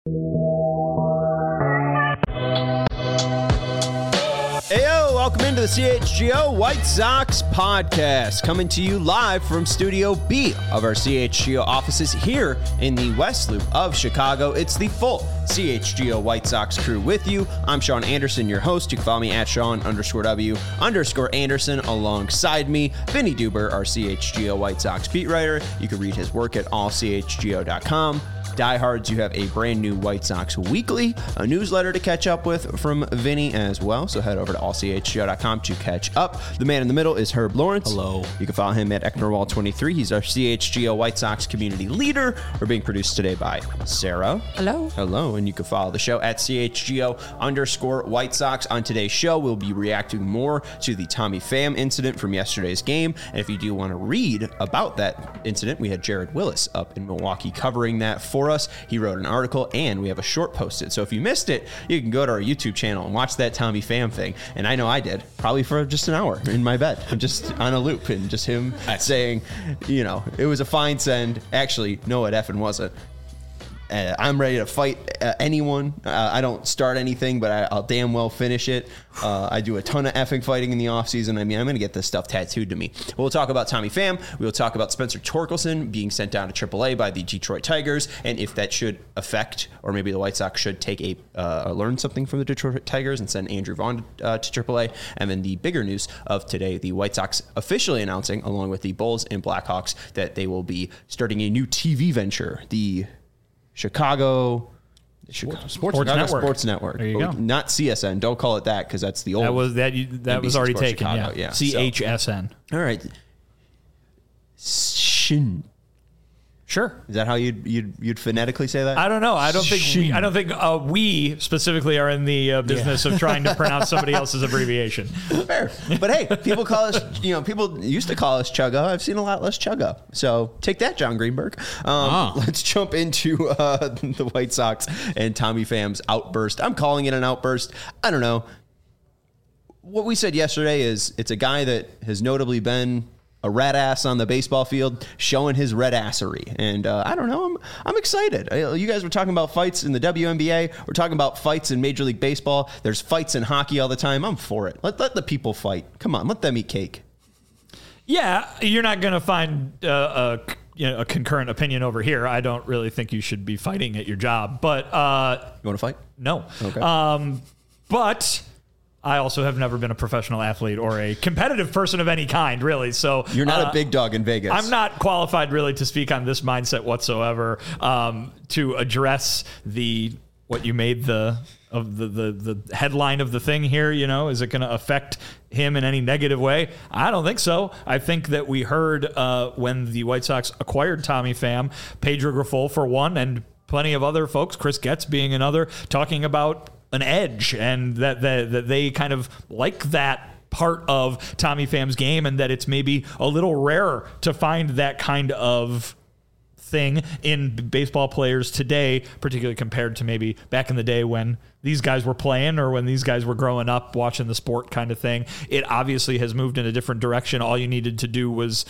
Heyo, welcome into the CHGO White Sox podcast, coming to you live from Studio B of our CHGO offices here in the West Loop of Chicago. It's the full CHGO White Sox crew with you. I'm Sean Anderson, your host. You can follow me at Sean_W_Anderson. Alongside me, Vinny Duber, our CHGO White Sox beat writer. You can read his work at allchgo.com. Diehards, you have a brand new White Sox Weekly, a newsletter to catch up with from Vinny as well. So head over to allchgo.com to catch up. The man in the middle is Herb Lawrence. Hello. You can follow him at Ecknerwall23. He's our CHGO White Sox community leader. We're being produced today by Sarah. Hello. Hello. And you can follow the show at CHGO_White Sox. On today's show, we'll be reacting more to the Tommy Pham incident from yesterday's game. And if you do want to read about that incident, we had Jared Willis up in Milwaukee covering that for us. He wrote an article and we have a short posted. So if you missed it, you can go to our YouTube channel and watch that Tommy Pham thing. And I know I did, probably for just an hour in my bed. I'm just on a loop and just him saying, you know, it was a fine send. Actually, no, it effing wasn't. I'm ready to fight anyone. I don't start anything, but I'll damn well finish it. I do a ton of effing fighting in the offseason. I mean, I'm going to get this stuff tattooed to me. We'll talk about Tommy Pham. We'll talk about Spencer Torkelson being sent down to AAA by the Detroit Tigers, and if that should affect, or maybe the White Sox should take learn something from the Detroit Tigers and send Andrew Vaughn to AAA. And then the bigger news of today, the White Sox officially announcing, along with the Bulls and Blackhawks, that they will be starting a new TV venture, the Chicago Sports Network. There you go. Not CSN. Don't call it that because that's the old. That was already taken. Chicago. Yeah. CHSN. So, all right. Shin. Sure. Is that how you'd phonetically say that? I don't know. I don't think we specifically are in the business of trying to pronounce somebody else's abbreviation. Fair. But hey, people call us, people used to call us Chugga. I've seen a lot less Chugga. So take that, John Greenberg. Let's jump into the White Sox and Tommy Pham's outburst. I'm calling it an outburst. I don't know. What we said yesterday is it's a guy that has notably been a red ass on the baseball field, showing his red assery. And I don't know, I'm excited. You guys were talking about fights in the WNBA. We're talking about fights in Major League Baseball. There's fights in hockey all the time. I'm for it. Let the people fight. Come on, let them eat cake. Yeah, you're not going to find a concurrent opinion over here. I don't really think you should be fighting at your job. But you want to fight? No. Okay. But I also have never been a professional athlete or a competitive person of any kind, really. So you're not a big dog in Vegas. I'm not qualified really to speak on this mindset whatsoever. To address what you made the headline of the thing here, is it going to affect him in any negative way? I don't think so. I think that we heard when the White Sox acquired Tommy Pham, Pedro Grifol for one, and plenty of other folks, Chris Getz being another, talking about an edge, and that they kind of like that part of Tommy Pham's game, and that it's maybe a little rarer to find that kind of thing in baseball players today, particularly compared to maybe back in the day when these guys were playing or when these guys were growing up watching the sport kind of thing. It obviously has moved in a different direction. All you needed to do was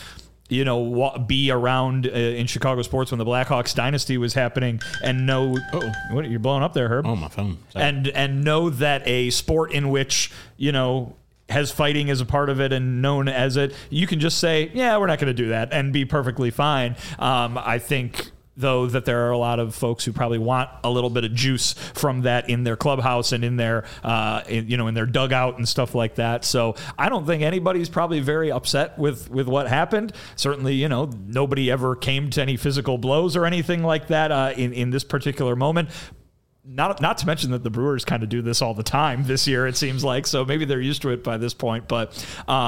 be around in Chicago sports when the Blackhawks dynasty was happening and know, what, you're blowing up there, Herb? Oh, my phone. Sorry. And know that a sport in which, has fighting as a part of it and known as it, you can just say, yeah, we're not going to do that and be perfectly fine. I think, though, that there are a lot of folks who probably want a little bit of juice from that in their clubhouse and in their, in their dugout and stuff like that. So I don't think anybody's probably very upset with what happened. Certainly, nobody ever came to any physical blows or anything like that in this particular moment. Not to mention that the Brewers kind of do this all the time this year, it seems like. So maybe they're used to it by this point. But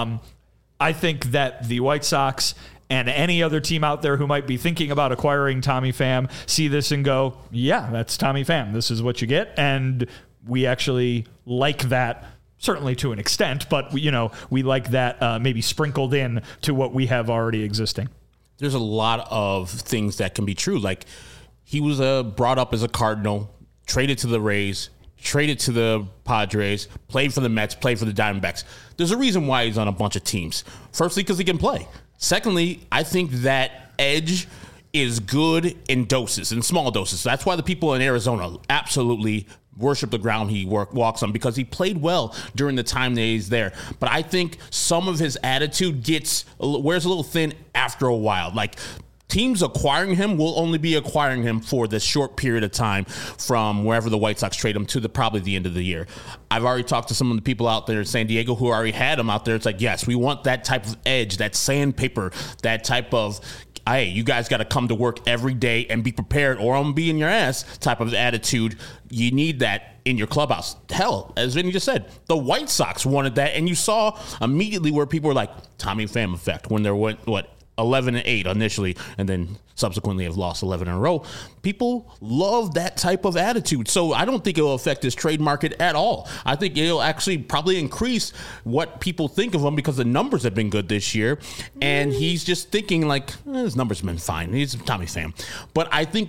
I think that the White Sox and any other team out there who might be thinking about acquiring Tommy Pham see this and go, yeah, that's Tommy Pham. This is what you get. And we actually like that, certainly to an extent, but we like that maybe sprinkled in to what we have already existing. There's a lot of things that can be true. Like, he was brought up as a Cardinal, traded to the Rays, traded to the Padres, played for the Mets, played for the Diamondbacks. There's a reason why he's on a bunch of teams. Firstly, because he can play. Secondly, I think that edge is good in doses, in small doses. That's why the people in Arizona absolutely worship the ground he walks on, because he played well during the time that he's there. But I think some of his attitude wears a little thin after a while. Like, teams acquiring him will only be acquiring him for this short period of time from wherever the White Sox trade him to probably the end of the year. I've already talked to some of the people out there in San Diego who already had him out there. It's like, yes, we want that type of edge, that sandpaper, that type of, hey, you guys got to come to work every day and be prepared or I'm going to be in your ass type of attitude. You need that in your clubhouse. Hell, as Vinny just said, the White Sox wanted that, and you saw immediately where people were like, Tommy Pham effect, when there went, 11-8 initially, and then subsequently have lost 11 in a row. People love that type of attitude. So I don't think it will affect his trade market at all. I think it'll actually probably increase what people think of him, because the numbers have been good this year. And he's just thinking like, his numbers have been fine. He's Tommy Pham. But I think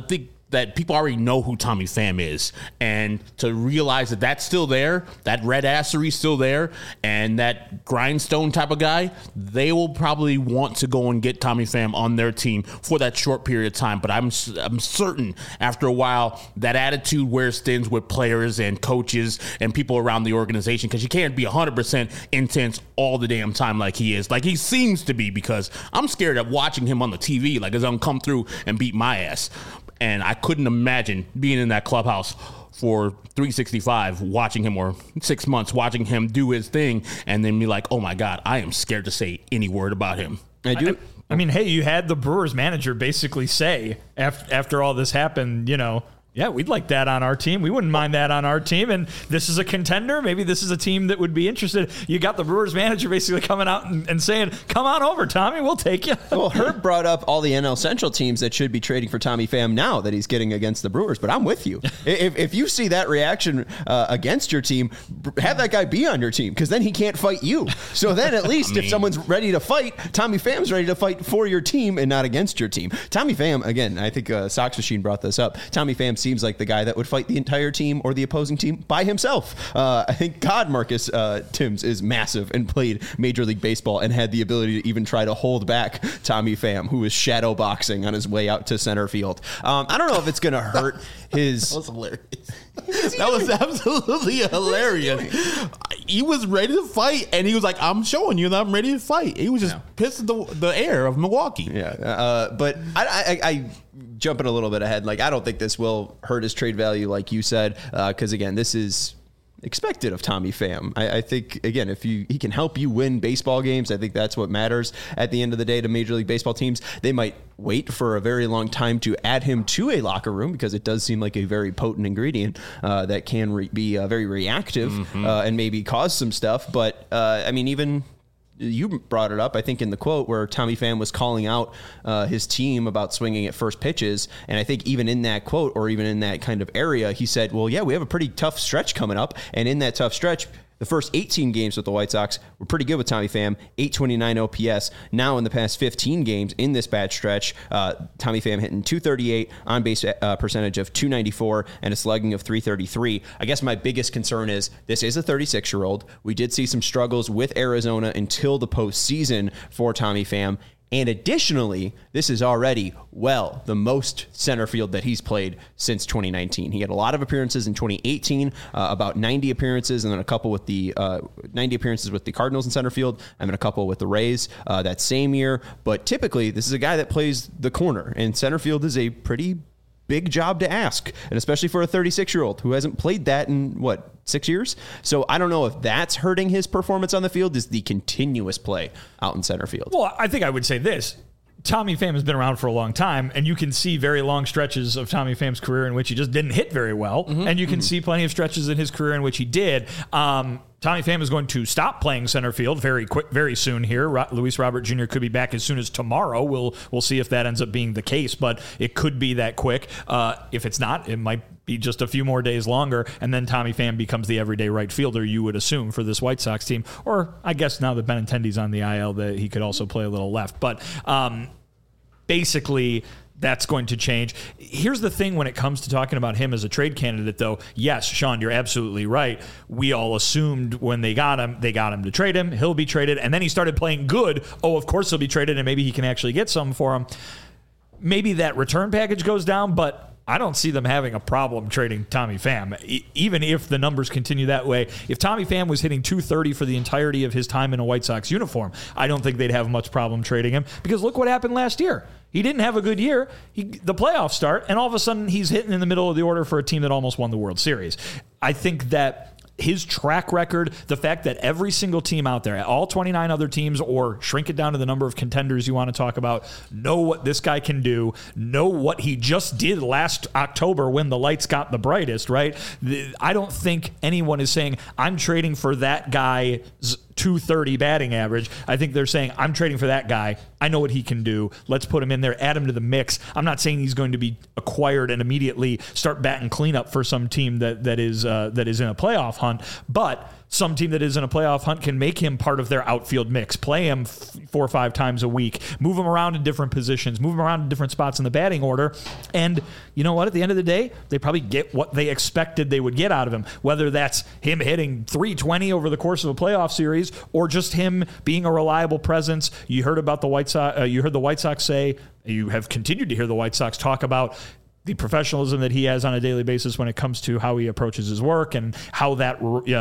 that people already know who Tommy Pham is, and to realize that that's still there, that red assery still there, and that grindstone type of guy, they will probably want to go and get Tommy Pham on their team for that short period of time. But I'm certain after a while that attitude wears thin with players and coaches and people around the organization, because you can't be 100% intense all the damn time like he is, like he seems to be, because I'm scared of watching him on the TV, like he's gonna come through and beat my ass. And I couldn't imagine being in that clubhouse for 365, watching him, or 6 months watching him do his thing, and then be like, oh my God, I am scared to say any word about him. I mean, hey, you had the Brewers manager basically say after all this happened, yeah, we'd like that on our team. We wouldn't mind that on our team. And this is a contender. Maybe this is a team that would be interested. You got the Brewers manager basically coming out and saying, come on over, Tommy. We'll take you. Well, Herb brought up all the NL Central teams that should be trading for Tommy Pham now that he's getting against the Brewers. But I'm with you. If you see that reaction against your team, have that guy be on your team, because then he can't fight you. So then at least if someone's ready to fight, Tommy Pham's ready to fight for your team and not against your team. Tommy Pham, again, I think Sox Machine brought this up. Tommy Pham seems like the guy that would fight the entire team or the opposing team by himself. I think Marcus Timms is massive and played Major League Baseball and had the ability to even try to hold back Tommy Pham, who was shadow boxing on his way out to center field. I don't know if it's going to hurt his... That was hilarious. That was absolutely hilarious. He was ready to fight, and he was like, I'm showing you that I'm ready to fight. He was just pissed at the air of Milwaukee. Yeah, but I jumping a little bit ahead, like, I don't think this will hurt his trade value, like you said, because, again, this is expected of Tommy Pham. I think, again, if he can help you win baseball games, I think that's what matters at the end of the day to Major League Baseball teams. They might wait for a very long time to add him to a locker room, because it does seem like a very potent ingredient that can be very reactive and maybe cause some stuff. But, I mean, even... You brought it up, I think, in the quote where Tommy Pham was calling out his team about swinging at first pitches. And I think even in that quote, or even in that kind of area, he said, well, yeah, we have a pretty tough stretch coming up. And in that tough stretch, the first 18 games with the White Sox were pretty good with Tommy Pham, 829 OPS. Now in the past 15 games in this bad stretch, Tommy Pham hitting 238, on-base percentage of 294, and a slugging of 333. I guess my biggest concern is this is a 36-year-old. We did see some struggles with Arizona until the postseason for Tommy Pham. And additionally, this is already, the most center field that he's played since 2019. He had a lot of appearances in 2018, about 90 appearances, and then a couple with the 90 appearances with the Cardinals in center field, and then a couple with the Rays that same year. But typically, this is a guy that plays the corner, and center field is a pretty big job to ask, and especially for a 36-year-old who hasn't played that in, 6 years? So I don't know if that's hurting his performance on the field, is the continuous play out in center field. Well, I think I would say this. Tommy Pham has been around for a long time, and you can see very long stretches of Tommy Pham's career in which he just didn't hit very well, and you can see plenty of stretches in his career in which he did. Tommy Pham is going to stop playing center field very soon here. Luis Robert Jr. could be back as soon as tomorrow. We'll see if that ends up being the case, but it could be that quick. If it's not, it might be just a few more days longer, and then Tommy Pham becomes the everyday right fielder, you would assume, for this White Sox team. Or I guess now that Benintendi's on the IL, that he could also play a little left. But basically, that's going to change. Here's the thing when it comes to talking about him as a trade candidate, though. Yes, Sean, you're absolutely right. We all assumed when they got him to trade him. He'll be traded. And then he started playing good. Oh, of course he'll be traded, and maybe he can actually get something for him. maybe that return package goes down, but I don't see them having a problem trading Tommy Pham, even if the numbers continue that way. If Tommy Pham was hitting .230 for the entirety of his time in a White Sox uniform, I don't think they'd have much problem trading him, because look what happened last year. He didn't have a good year. The playoffs start, and all of a sudden he's hitting in the middle of the order for a team that almost won the World Series. I think that his track record, the fact that every single team out there, all 29 other teams, or shrink it down to the number of contenders you want to talk about, know what this guy can do, know what he just did last October when the lights got the brightest, right? I don't think anyone is saying, I'm trading for that guy's .230 batting average. I think they're saying, I'm trading for that guy. I know what he can do. Let's put him in there, add him to the mix. I'm not saying he's going to be acquired and immediately start batting cleanup for some team that is in a playoff hunt, but some team that is in a playoff hunt can make him part of their outfield mix, play him 4 or 5 times a week, move him around in different positions, move him around in different spots in the batting order. And you know what? At the end of the day, they probably get what they expected they would get out of him, whether that's him hitting .320 over the course of a playoff series or just him being a reliable presence. You heard about the White Sox. You heard the White Sox say, you have continued to hear the White Sox talk about the professionalism that he has on a daily basis when it comes to how he approaches his work and how that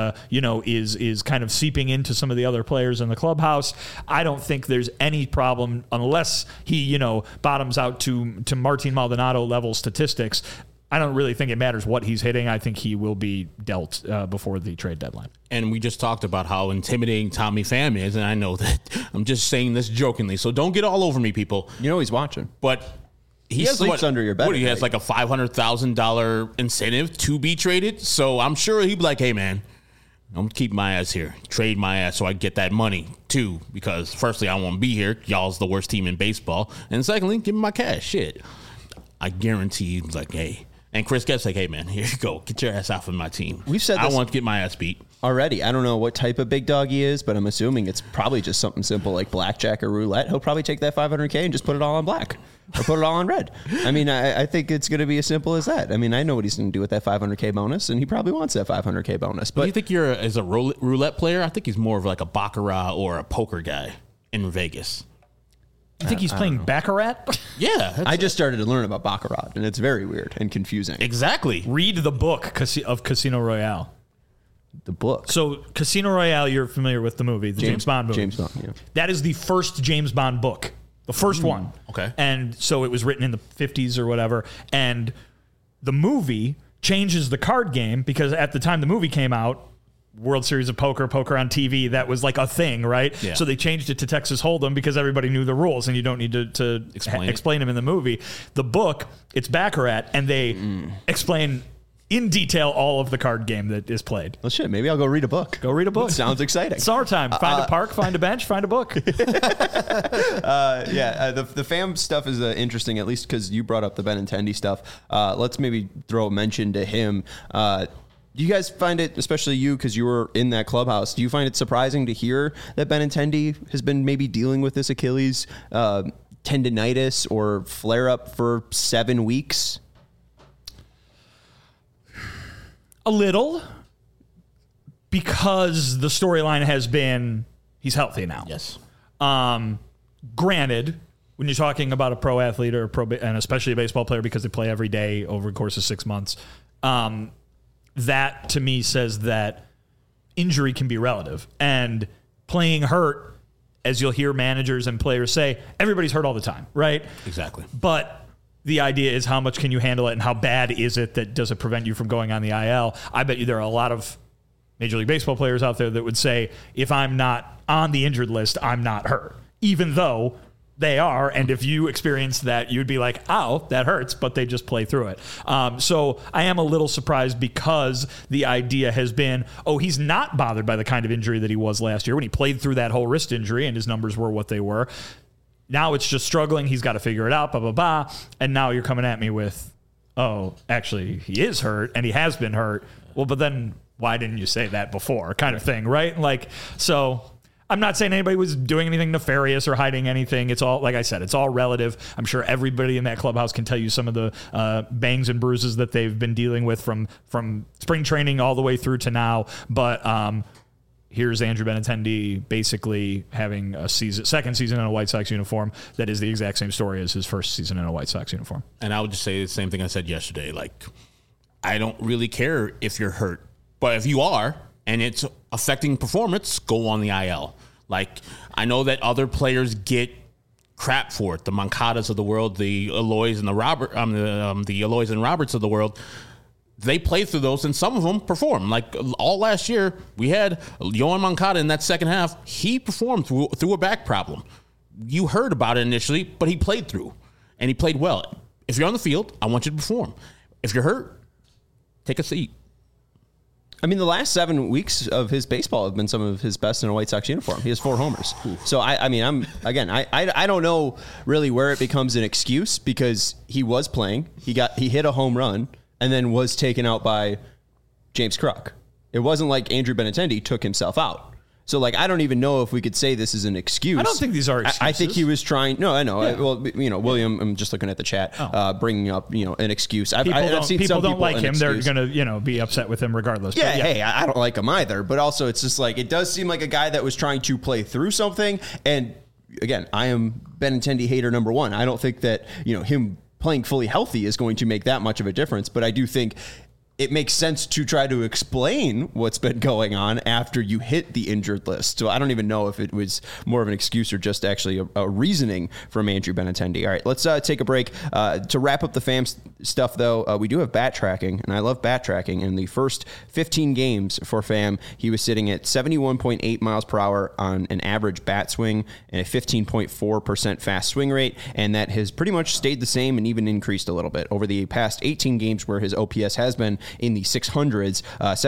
is kind of seeping into some of the other players in the clubhouse. I don't think there's any problem unless he bottoms out to Martin Maldonado level statistics. I don't really think it matters what he's hitting. I think he will be dealt before the trade deadline. And we just talked about how intimidating Tommy Pham is, and I know that I'm just saying this jokingly, so don't get all over me, people. You know he's watching. But he sleeps under your bed. He has like a $500,000 incentive to be traded. So I'm sure he'd be like, hey, man, I'm going to keep my ass here. Trade my ass so I get that money, too. Because firstly, I won't be here. Y'all's the worst team in baseball. And secondly, give me my cash. Shit. I guarantee he's like, hey. And Chris Getz like, hey, man, here you go. Get your ass off of my team. We've said I this want to get my ass beat. Already. I don't know what type of big dog he is, but I'm assuming it's probably just something simple like blackjack or roulette. He'll probably take that $500K and just put it all on black or put it all on red. I mean, I think it's going to be as simple as that. I mean, I know what he's going to do with that $500K bonus, and he probably wants that $500K bonus. But do you think as a roulette player? I think he's more of like a baccarat or a poker guy in Vegas. You think he's playing Baccarat? Yeah. I just started to learn about Baccarat, and it's very weird and confusing. Exactly. Read the book of Casino Royale. The book. So Casino Royale, you're familiar with the movie, the James Bond movie. James Bond, yeah. That is the first James Bond book. The first one. Okay. And so it was written in the 50s or whatever. And the movie changes the card game because at the time the movie came out, World Series of Poker on TV, that was like a thing, right? Yeah. So they changed it to Texas Hold'em because everybody knew the rules and you don't need to explain them in the movie. The book, it's Baccarat, and they explain in detail all of the card game that is played. Well, shit, maybe I'll go read a book. Go read a book. Sounds exciting. Summertime. Find a park, find a bench, find a book. The Pham stuff is interesting, at least because you brought up the Benintendi stuff. Let's maybe throw a mention to him. Do you guys find it, especially you, because you were in that clubhouse, do you find it surprising to hear that Benintendi has been maybe dealing with this Achilles tendinitis or flare-up for 7 weeks? A little, because the storyline has been he's healthy now. Yes. Granted, when you're talking about a pro athlete or and especially a baseball player because they play every day over the course of 6 months, that to me says that injury can be relative. And playing hurt, as you'll hear managers and players say, everybody's hurt all the time, right? Exactly. But the idea is how much can you handle it and how bad is it that does it prevent you from going on the IL? I bet you there are a lot of Major League Baseball players out there that would say, if I'm not on the injured list, I'm not hurt, even though they are. And if you experience that, you'd be like, ow, that hurts, but they just play through it. So I am a little surprised because the idea has been, oh, he's not bothered by the kind of injury that he was last year when he played through that whole wrist injury and his numbers were what they were. Now it's just struggling. He's got to figure it out, blah, blah, blah. And now you're coming at me with, oh, actually, he is hurt and he has been hurt. Well, but then why didn't you say that before kind of thing, right? Like, so I'm not saying anybody was doing anything nefarious or hiding anything. It's all, like I said, it's all relative. I'm sure everybody in that clubhouse can tell you some of the bangs and bruises that they've been dealing with from spring training all the way through to now. But here's Andrew Benintendi basically having a second season in a White Sox uniform that is the exact same story as his first season in a White Sox uniform. And I would just say the same thing I said yesterday. Like, I don't really care if you're hurt, but if you are and it's affecting performance, go on the IL. Like, I know that other players get crap for it. The Moncadas of the world, the Eloys and the Eloys and Roberts of the world, they play through those, and some of them perform. Like all last year, we had Yoan Moncada in that second half. He performed through a back problem. You heard about it initially, but he played through, and he played well. If you're on the field, I want you to perform. If you're hurt, take a seat. I mean, the last 7 weeks of his baseball have been some of his best in a White Sox uniform. He has 4 homers. So, I don't know really where it becomes an excuse, because he was playing. He hit a home run and then was taken out by James Kruk. It wasn't like Andrew Benintendi took himself out. So, like, I don't even know if we could say this is an excuse. I don't think these are excuses. I think he was trying. No, I know. Yeah. William, I'm just looking at the chat, bringing up, an excuse. I've seen people some don't people like him. They're going to, be upset with him regardless. Yeah, hey, I don't like him either. But also, it's just like, it does seem like a guy that was trying to play through something. And again, I am Benintendi hater number 1. I don't think that, him playing fully healthy is going to make that much of a difference. But I do think it makes sense to try to explain what's been going on after you hit the injured list. So I don't even know if it was more of an excuse or just actually a reasoning from Andrew Benintendi. All right, let's take a break. To wrap up the FAM stuff, though, we do have bat tracking, and I love bat tracking. In the first 15 games for FAM, he was sitting at 71.8 miles per hour on an average bat swing and a 15.4% fast swing rate, and that has pretty much stayed the same and even increased a little bit over the past 18 games where his OPS has been in the 600s,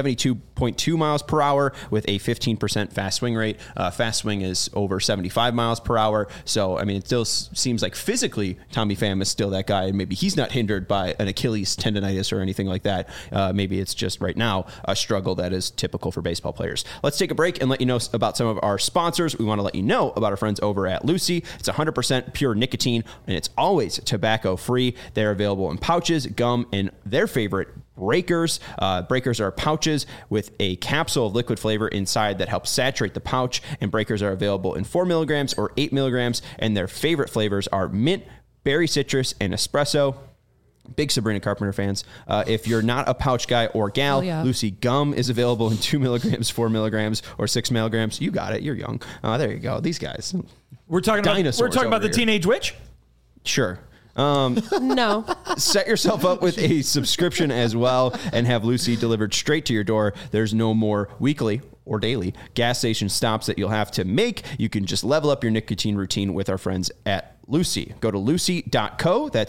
72.2 miles per hour with a 15% fast swing rate. Fast swing is over 75 miles per hour. So, I mean, it still seems like physically Tommy Pham is still that guy, and maybe he's not hindered by an Achilles tendonitis or anything like that. Maybe it's just right now a struggle that is typical for baseball players. Let's take a break and let you know about some of our sponsors. We want to let you know about our friends over at Lucy. It's 100% pure nicotine, and it's always tobacco free. They're available in pouches, gum, and their favorite, Breakers. Breakers are pouches with a capsule of liquid flavor inside that helps saturate the pouch, and Breakers are available in 4 milligrams or 8 milligrams, and their favorite flavors are mint, berry citrus, and espresso. Big Sabrina Carpenter fans. If you're not a pouch guy or gal, Lucy Gum is available in 2 milligrams, 4 milligrams, or 6 milligrams. You got it. You're young. There you go. These guys. We're talking about the Teenage Witch? Sure. No. Set yourself up with a subscription as well and have Lucy delivered straight to your door. There's no more weekly or daily gas station stops that you'll have to make. You can just level up your nicotine routine with our friends at Lucy. Go to lucy.co. That's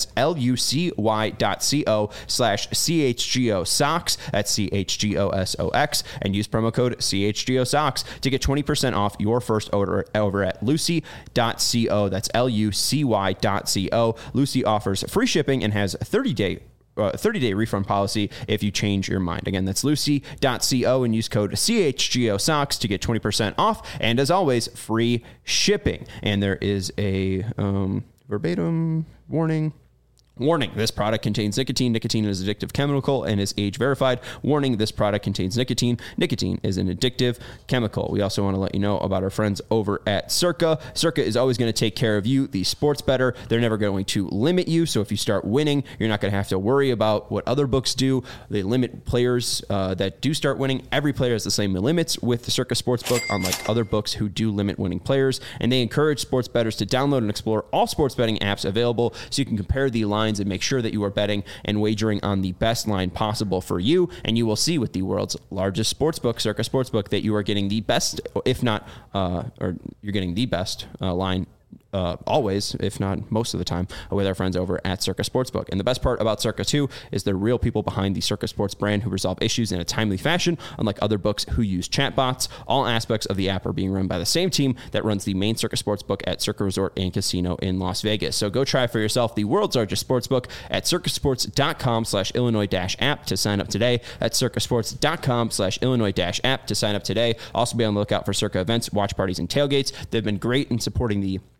lucy.co/CHGO Socks. That's CHGOSOX. And use promo code CHGO Socks to get 20% off your first order over at lucy.co. That's lucy.co. Lucy offers free shipping and has a 30-day refund policy if you change your mind. Again, that's lucy.co and use code CHGO Socks to get 20% off. And as always, free shipping. And there is a verbatim warning. Warning, this product contains nicotine. Nicotine is an addictive chemical and is age verified. Warning, this product contains nicotine. Nicotine is an addictive chemical. We also want to let you know about our friends over at Circa. Circa is always going to take care of you, the sports bettor. They're never going to limit you. So if you start winning, you're not going to have to worry about what other books do. They limit players that do start winning. Every player has the same limits with the Circa Sportsbook, unlike other books who do limit winning players. And they encourage sports bettors to download and explore all sports betting apps available so you can compare the lines and make sure that you are betting and wagering on the best line possible for you. And you will see with the world's largest sportsbook, Circa Sportsbook, that you are getting the best, if not, or you're getting the best line always, if not most of the time, with our friends over at Circa Sportsbook. And the best part about Circa, too, is the real people behind the Circa Sports brand who resolve issues in a timely fashion, unlike other books who use chatbots. All aspects of the app are being run by the same team that runs the main Circa Sportsbook at Circa Resort and Casino in Las Vegas. So go try for yourself the world's largest sportsbook at circasports.com/Illinois-app to sign up today. That's circasports.com/Illinois-app to sign up today. Also be on the lookout for Circa events, watch parties, and tailgates. They've been great in supporting the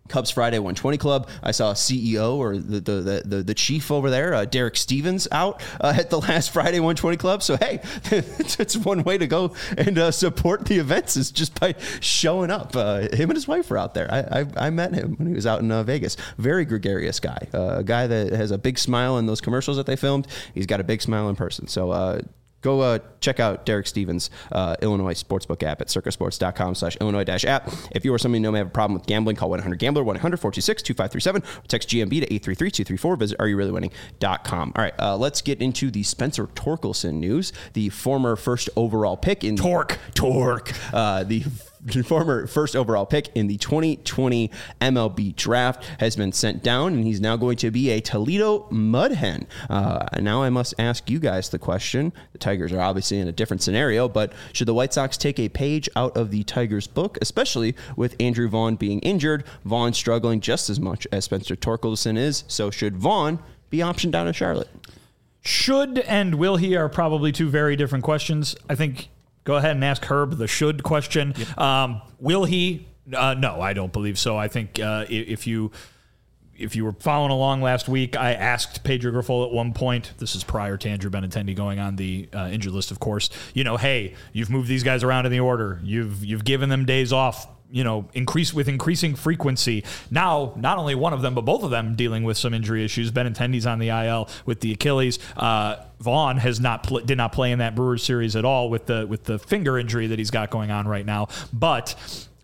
Cubs Friday 120 Club. I saw a CEO or the chief over there, Derek Stevens, out at the last Friday 120 Club. So, hey, it's one way to go and support the events is just by showing up. Him and his wife were out there. I met him when he was out in Vegas. Very gregarious guy. A guy that has a big smile in those commercials that they filmed. He's got a big smile in person. So, go check out Derek Stevens' Illinois Sportsbook app at circasports.com/Illinois-app. If you or somebody you know may have a problem with gambling, call 1-800-GAMBLER, 1-800-426-2537, or text GMB to 833-234. Visit areyourreallywinning.com. All right, let's get into the Spencer Torkelson news. The former first overall pick in... Torque. The former first overall pick in the 2020 MLB draft has been sent down, and he's now going to be a Toledo Mud Hen. Now I must ask you guys the question. The Tigers are obviously in a different scenario, but should the White Sox take a page out of the Tigers' book, especially with Andrew Vaughn being injured? Vaughn struggling just as much as Spencer Torkelson is, so should Vaughn be optioned down to Charlotte? Should and will he are probably two very different questions. I think... Go ahead and ask Herb the should question. Yep. Will he? No, I don't believe so. I think if you were following along last week, I asked Pedro Grifol at one point, this is prior to Andrew Benintendi going on the injured list, of course, hey, you've moved these guys around in the order. You've given them days off, increasing frequency. Now, not only one of them, but both of them dealing with some injury issues. Benintendi's on the IL with the Achilles. Vaughn did not play in that Brewers series at all with the finger injury that he's got going on right now. But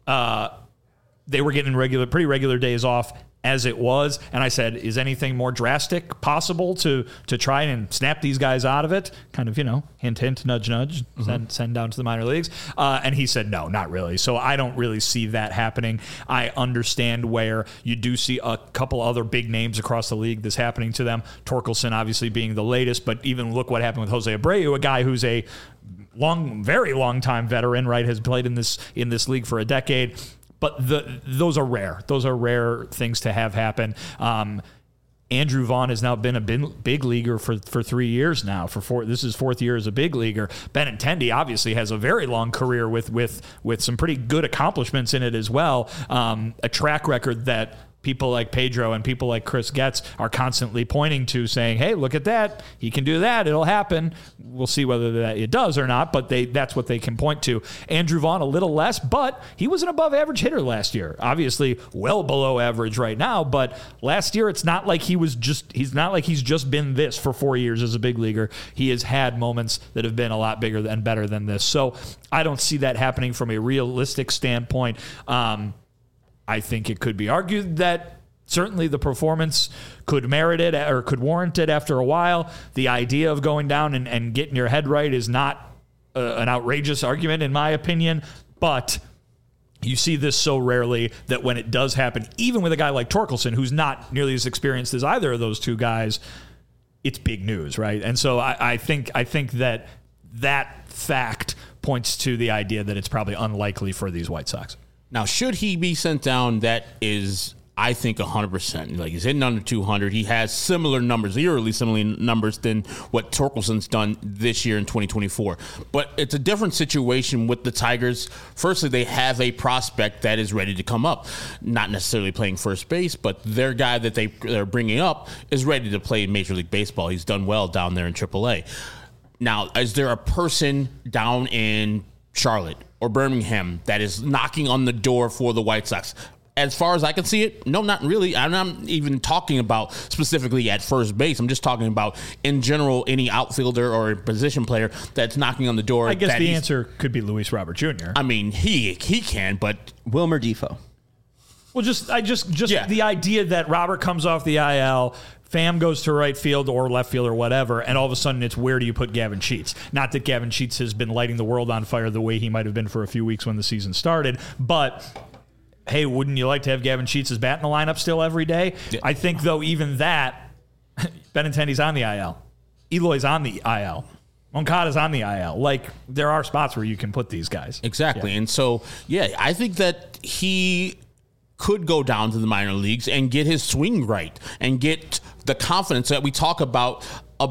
they were getting pretty regular days off as it was. And I said, is anything more drastic possible to try and snap these guys out of it? Kind of, hint, hint, nudge, nudge, send down to the minor leagues. And he said, no, not really. So I don't really see that happening. I understand where you do see a couple other big names across the league that's happening to them. Torkelson obviously being the latest, but even look what happened with Jose Abreu, a guy who's a very long time veteran, right? Has played in this league for a decade. But those are rare. Those are rare things to have happen. Andrew Vaughn has now been a big leaguer for 3 years now. This is fourth year as a big leaguer. Benintendi obviously has a very long career with some pretty good accomplishments in it as well. A track record that people like Pedro and people like Chris Getz are constantly pointing to, saying, hey, look at that. He can do that. It'll happen. We'll see whether that it does or not, but that's what they can point to. Andrew Vaughn, a little less, but he was an above average hitter last year. Obviously, well below average right now, but last year it's not like he's just been this for 4 years as a big leaguer. He has had moments that have been a lot bigger and better than this. So I don't see that happening from a realistic standpoint. I think it could be argued that certainly the performance could merit it or could warrant it after a while. The idea of going down and getting your head right is not an outrageous argument, in my opinion, but you see this so rarely that when it does happen, even with a guy like Torkelson, who's not nearly as experienced as either of those two guys, it's big news, right? And so I think that fact points to the idea that it's probably unlikely for these White Sox. Now, should he be sent down? That is, I think, 100%. Like, he's hitting under 200. He has similar numbers, eerily similar numbers than what Torkelson's done this year in 2024. But it's a different situation with the Tigers. Firstly, they have a prospect that is ready to come up. Not necessarily playing first base, but their guy that they're bringing up is ready to play in Major League Baseball. He's done well down there in AAA. Now, is there a person down in Charlotte or Birmingham that is knocking on the door for the White Sox? As far as I can see it, no, not really. I'm not even talking about specifically at first base. I'm just talking about in general any outfielder or position player that's knocking on the door. I guess the answer could be Luis Robert Jr. I mean, he can, but Wilmer Defoe. Well, Yeah. The idea that Robert comes off the IL, Pham goes to right field or left field or whatever, and all of a sudden it's where do you put Gavin Sheets? Not that Gavin Sheets has been lighting the world on fire the way he might have been for a few weeks when the season started, but hey, wouldn't you like to have Gavin Sheets' bat in the lineup still every day? Yeah. I think, though, even that, Benintendi's on the IL. Eloy's on the IL. Moncada's on the IL. Like, there are spots where you can put these guys. Exactly. Yeah. And so, I think that he could go down to the minor leagues and get his swing right and get the confidence that we talk about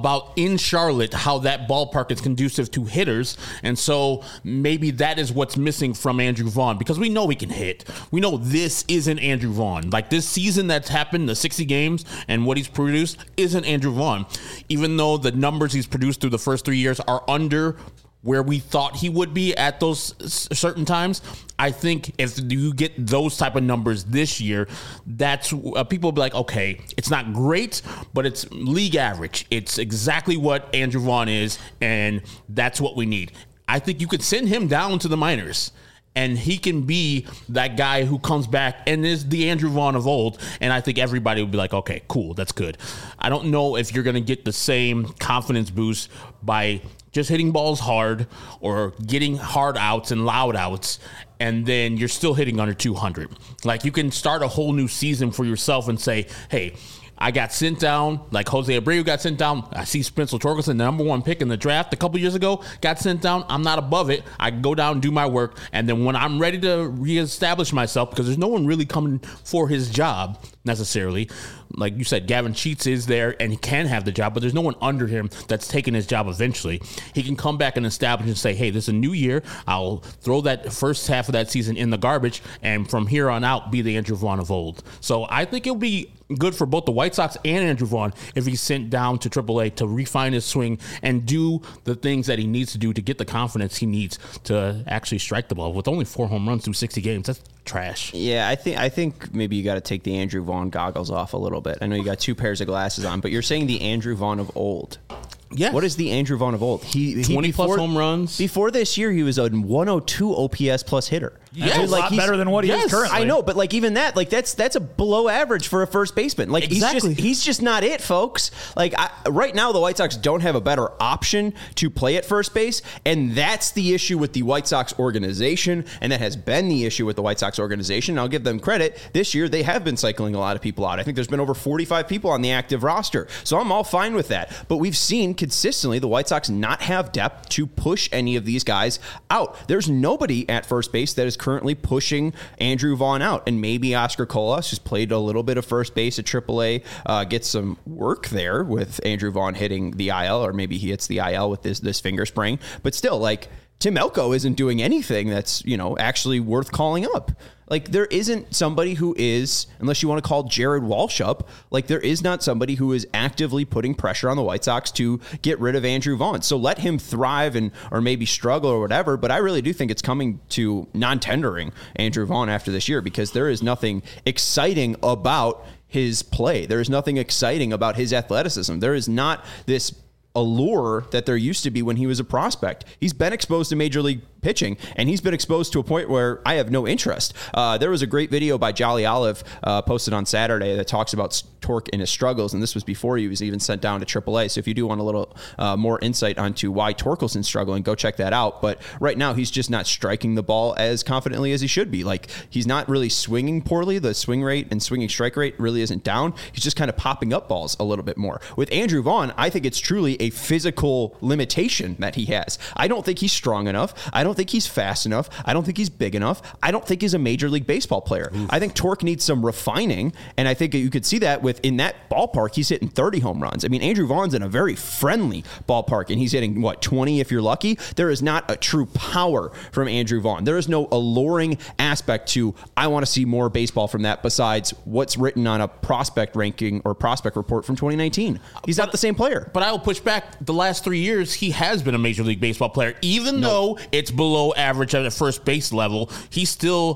in Charlotte, how that ballpark is conducive to hitters. And so maybe that is what's missing from Andrew Vaughn, because we know he can hit. We know this isn't Andrew Vaughn. Like this season that's happened, the 60 games and what he's produced isn't Andrew Vaughn. Even though the numbers he's produced through the first 3 years are under where we thought he would be at those certain times, I think if you get those type of numbers this year, that's people will be like, okay, it's not great, but it's league average. It's exactly what Andrew Vaughn is, and that's what we need. I think you could send him down to the minors, and he can be that guy who comes back and is the Andrew Vaughn of old. And I think everybody would be like, okay, cool, that's good. I don't know if you're going to get the same confidence boost by just hitting balls hard or getting hard outs and loud outs, and then you're still hitting under 200. Like, you can start a whole new season for yourself and say, hey, I got sent down, like Jose Abreu got sent down. I see Spencer Torkelson, the number 1 pick in the draft a couple years ago, got sent down. I'm not above it. I can go down and do my work. And then when I'm ready to reestablish myself, because there's no one really coming for his job necessarily. Like you said, Gavin Sheets is there and he can have the job, but there's no one under him that's taking his job eventually. He can come back and establish and say, hey, this is a new year. I'll throw that first half of that season in the garbage, and from here on out, be the Andrew Vaughn of old. So I think it'll be good for both the White Sox and Andrew Vaughn if he's sent down to AAA to refine his swing and do the things that he needs to do to get the confidence he needs to actually strike the ball. With only 4 home runs through 60 games, that's trash. Yeah, I think maybe you got to take the Andrew Vaughn goggles off a little bit. I know you got 2 pairs of glasses on, but you're saying the Andrew Vaughn of old. Yes. What is the Andrew Vaughn of old? He 20 plus home runs. Before this year, he was a 102 OPS plus hitter. That's a lot better than what he is currently. I know, but like even that, like that's a below average for a first baseman. Like exactly. he's just not it, folks. Like right now, the White Sox don't have a better option to play at first base, and that's the issue with the White Sox organization, and that has been the issue with the White Sox organization. And I'll give them credit. This year, they have been cycling a lot of people out. I think there's been over 45 people on the active roster, so I'm all fine with that. But we've seen consistently the White Sox not have depth to push any of these guys out. There's nobody at first base that is currently pushing Andrew Vaughn out, and maybe Oscar Colas, who's played a little bit of first base at AAA, gets some work there with Andrew Vaughn hitting the IL, or maybe he hits the IL with this finger sprain. But still, like, Tim Elko isn't doing anything that's, actually worth calling up. Like, there isn't somebody who is, unless you want to call Jared Walsh up, like, there is not somebody who is actively putting pressure on the White Sox to get rid of Andrew Vaughn. So let him thrive or maybe struggle or whatever. But I really do think it's coming to non-tendering Andrew Vaughn after this year, because there is nothing exciting about his play. There is nothing exciting about his athleticism. There is not this allure that there used to be when he was a prospect. He's been exposed to major league pitching, and he's been exposed to a point where I have no interest. There was a great video by Jolly Olive posted on Saturday that talks about Torque and his struggles, and this was before he was even sent down to AAA. So if you do want a little more insight onto why Torkelson's struggling, go check that out. But right now, he's just not striking the ball as confidently as he should be. Like, he's not really swinging poorly. The swing rate and swinging strike rate really isn't down. He's just kind of popping up balls a little bit more. With Andrew Vaughn, I think it's truly a physical limitation that he has. I don't think he's strong enough. I don't think he's fast enough. I don't think he's big enough. I don't think he's a Major League Baseball player. I think Torque needs some refining, and I think you could see that in that ballpark, he's hitting 30 home runs. I mean, Andrew Vaughn's in a very friendly ballpark, and he's hitting, 20 if you're lucky? There is not a true power from Andrew Vaughn. There is no alluring aspect to, I want to see more baseball from that besides what's written on a prospect ranking or prospect report from 2019. He's not the same player. But I will push back. The last 3 years, he has been a Major League Baseball player. Even though it's below average at the first base level, he's still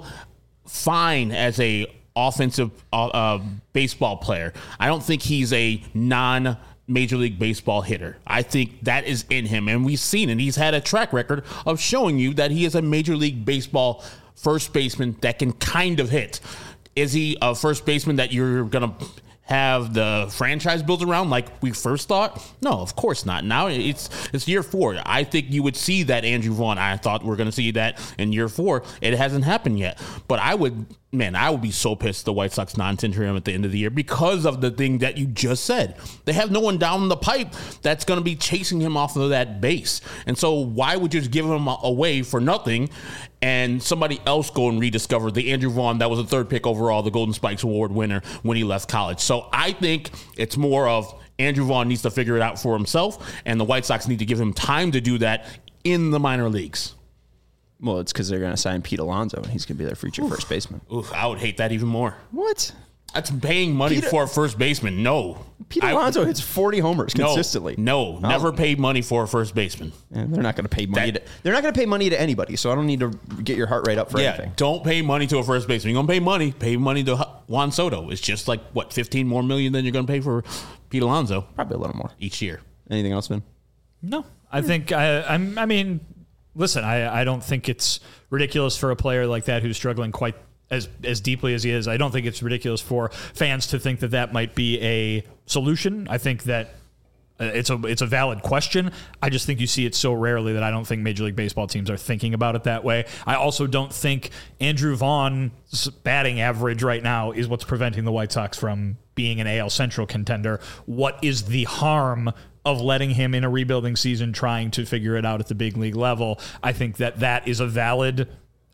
fine as a offensive baseball player. I don't think he's a non-Major League Baseball hitter. I think that is in him, and we've seen it. He's had a track record of showing you that he is a Major League Baseball first baseman that can kind of hit. Is he a first baseman that you're going to have the franchise built around like we first thought? No, of course not. Now it's year 4. I think you would see that Andrew Vaughn. I thought we're going to see that in year 4. It hasn't happened yet. But I would man, I would be so pissed if the White Sox non-tender him at the end of the year because of the thing that you just said. They have no one down the pipe that's going to be chasing him off of that base. And so why would you just give him away for nothing and somebody else go and rediscover the Andrew Vaughn that was the 3rd pick overall, the Golden Spikes Award winner when he left college? So I think it's more of Andrew Vaughn needs to figure it out for himself, and the White Sox need to give him time to do that in the minor leagues. Well, it's because they're going to sign Pete Alonso, and he's going to be their future first baseman. Oof, I would hate that even more. What? That's paying money for a first baseman. No. Pete Alonso hits 40 homers consistently. No, never pay money for a first baseman. And they're not going to pay money. They're not going to pay money to anybody, so I don't need to get your heart rate up for anything. Don't pay money to a first baseman. You're going to pay money to Juan Soto. It's just like, what, $15 more million than you're going to pay for Pete Alonso? Probably a little more. Each year. Anything else, Vin? No. I think, I mean, listen, I don't think it's ridiculous for a player like that who's struggling quite as deeply as he is. I don't think it's ridiculous for fans to think that that might be a solution. I think that it's a valid question. I just think you see it so rarely that I don't think Major League Baseball teams are thinking about it that way. I also don't think Andrew Vaughn's batting average right now is what's preventing the White Sox from being an AL Central contender. What is the harm of letting him in a rebuilding season trying to figure it out at the big league level? I think that is a valid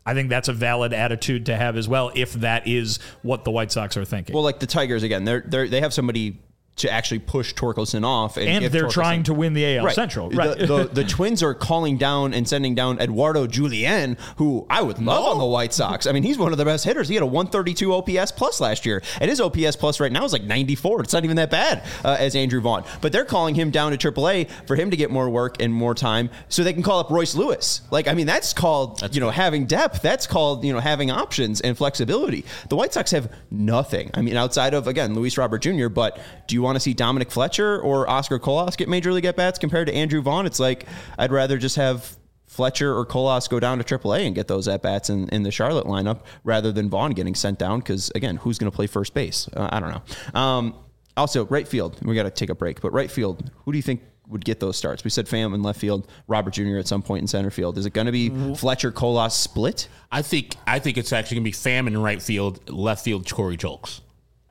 attitude to have as well, if that is what the White Sox are thinking. Well, like the Tigers, again, they have somebody to actually push Torkelson off. And they're trying to win the AL Central. Right. The Twins are calling down and sending down Eduardo Julien, who I would love on the White Sox. I mean, he's one of the best hitters. He had a 132 OPS plus last year, and his OPS plus right now is like 94. It's not even that bad as Andrew Vaughn. But they're calling him down to AAA for him to get more work and more time so they can call up Royce Lewis. Like, I mean, that's called, having depth. That's called, having options and flexibility. The White Sox have nothing. I mean, outside of, again, Luis Robert Jr., but do you want to see Dominic Fletcher or Oscar Colas get Major League at-bats compared to Andrew Vaughn? It's like, I'd rather just have Fletcher or Colas go down to AAA and get those at-bats in the Charlotte lineup rather than Vaughn getting sent down because, again, who's going to play first base? I don't know. Also, right field. We got to take a break. But right field, who do you think would get those starts? We said Pham in left field, Robert Jr. at some point in center field. Is it going to be Fletcher, Colas split? I think it's actually going to be Pham in right field, left field, Corey Julks.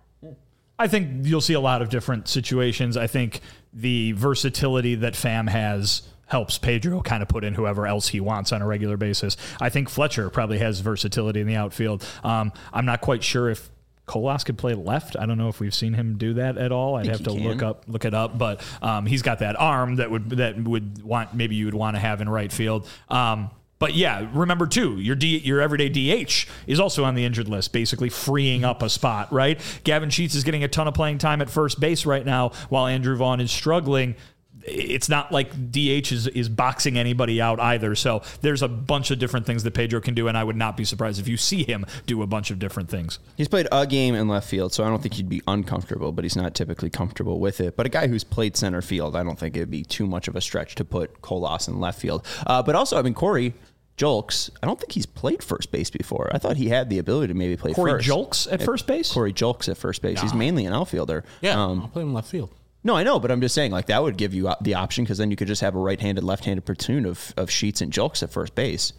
I think you'll see a lot of different situations. I think the versatility that Pham has helps Pedro kind of put in whoever else he wants on a regular basis. I think Fletcher probably has versatility in the outfield. I'm not quite sure if Colas could play left. I don't know if we've seen him do that at all. I'd have to look it up, but he's got that arm that would want, maybe you would want to have in right field. But yeah, remember too, your everyday DH is also on the injured list, basically freeing up a spot, right? Gavin Sheets is getting a ton of playing time at first base right now while Andrew Vaughn is struggling. It's not like DH is boxing anybody out either. So there's a bunch of different things that Pedro can do, and I would not be surprised if you see him do a bunch of different things. He's played a game in left field, so I don't think he'd be uncomfortable, but he's not typically comfortable with it. But a guy who's played center field, I don't think it'd be too much of a stretch to put Colas in left field. But also, I mean, Corey Julks, I don't think he's played first base before. I thought he had the ability to maybe play Corey first. Julks at first base? Corey Julks at first base. Nah. He's mainly an outfielder. Yeah, I'll play him in left field. No, I know, but I'm just saying, like, that would give you the option because then you could just have a right-handed, left-handed platoon of Sheets and Julks at first base.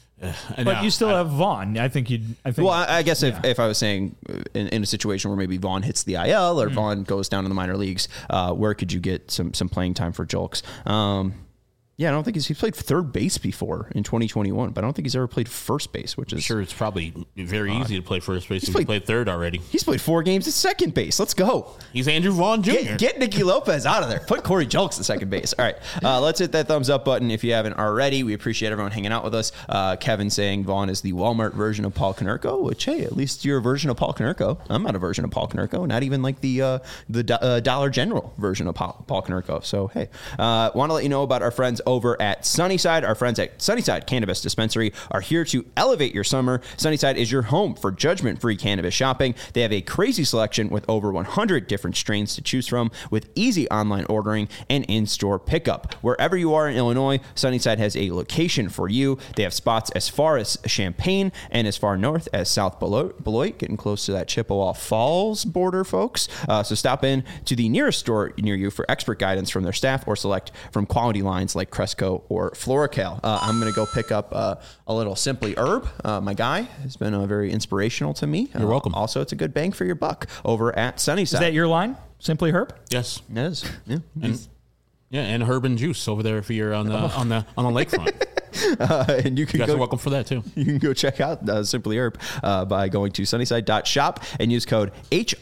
But you still have Vaughn. I guess if I was saying in a situation where maybe Vaughn hits the IL or Vaughn goes down in the minor leagues, where could you get some playing time for Julks? Yeah, I don't think he's played third base before in 2021, but I don't think he's ever played first base, which is... I'm sure it's probably very easy to play first base if he played third already. He's played 4 games at second base. Let's go. He's Andrew Vaughn Jr. Get Nicky Lopez out of there. Put Corey Julks at second base. All right, let's hit that thumbs up button if you haven't already. We appreciate everyone hanging out with us. Kevin saying Vaughn is the Walmart version of Paul Konerko, which, hey, at least you're a version of Paul Konerko. I'm not a version of Paul Konerko, not even like the Dollar General version of Paul Konerko. So, hey, want to let you know about our friends over at Sunnyside. Our friends at Sunnyside Cannabis Dispensary are here to elevate your summer. Sunnyside is your home for judgment-free cannabis shopping. They have a crazy selection with over 100 different strains to choose from with easy online ordering and in-store pickup. Wherever you are in Illinois, Sunnyside has a location for you. They have spots as far as Champaign and as far north as South Beloit, getting close to that Chippewa Falls border, folks. So stop in to the nearest store near you for expert guidance from their staff or select from quality lines like Cresco or FloraCal. I'm going to go pick up a little Simply Herb. My guy has been very inspirational to me. You're welcome. Also, it's a good bang for your buck over at Sunnyside. Is that your line? Simply Herb? Yes. It is. Yeah. And herb and juice over there if you're on the lakefront. And you You guys are welcome for that too. You can go check out Simply Herb by going to sunnyside.shop and use code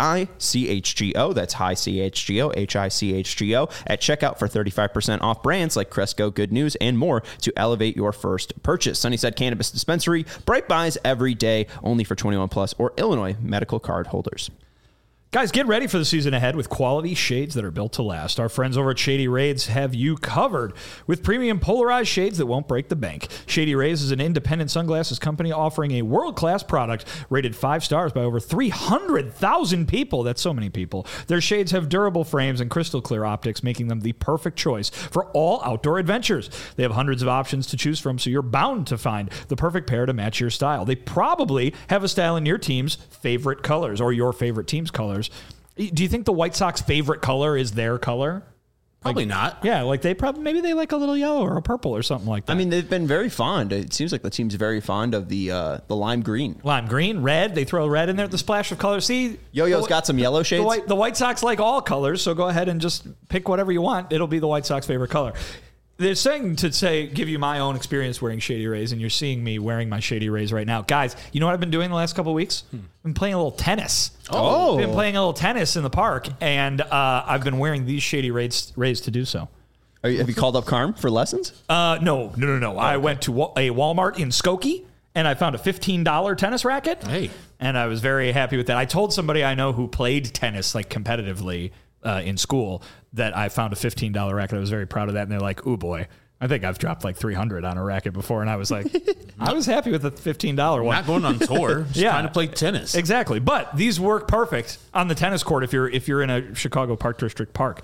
HICHGO. That's high CHGO, HICHGO at checkout for 35% off brands like Cresco, Good News, and more to elevate your first purchase. Sunnyside Cannabis Dispensary, bright buys every day, only for 21 plus or Illinois medical card holders. Guys, get ready for the season ahead with quality shades that are built to last. Our friends over at Shady Rays have you covered with premium polarized shades that won't break the bank. Shady Rays is an independent sunglasses company offering a world-class product rated 5 stars by over 300,000 people. That's so many people. Their shades have durable frames and crystal clear optics, making them the perfect choice for all outdoor adventures. They have hundreds of options to choose from, so you're bound to find the perfect pair to match your style. They probably have a style in your team's favorite colors or your favorite team's colors. Do you think the White Sox favorite color is their color? Probably not. Yeah, like maybe they like a little yellow or a purple or something like that. I mean, they've been very fond. It seems like the team's very fond of the lime green. Lime green, red. They throw red in there, the splash of color. See, Yo-Yo's got some yellow shades. The White Sox like all colors, so go ahead and just pick whatever you want. It'll be the White Sox favorite color. They're saying give you my own experience wearing Shady Rays, and you're seeing me wearing my Shady Rays right now. Guys, you know what I've been doing the last couple of weeks? I've been playing a little tennis. I've been playing a little tennis in the park, and I've been wearing these Shady Rays to do so. Have you called up Carm for lessons? No. I went to a Walmart in Skokie, and I found a $15 tennis racket. Hey. And I was very happy with that. I told somebody I know who played tennis like competitively in school that I found a $15 racket. I was very proud of that. And they're like, ooh, boy, I think I've dropped like $300 on a racket before. And I was like, I was happy with the $15 one. Not going on tour, just trying to play tennis. Exactly. But these work perfect on the tennis court if you're in a Chicago Park District park.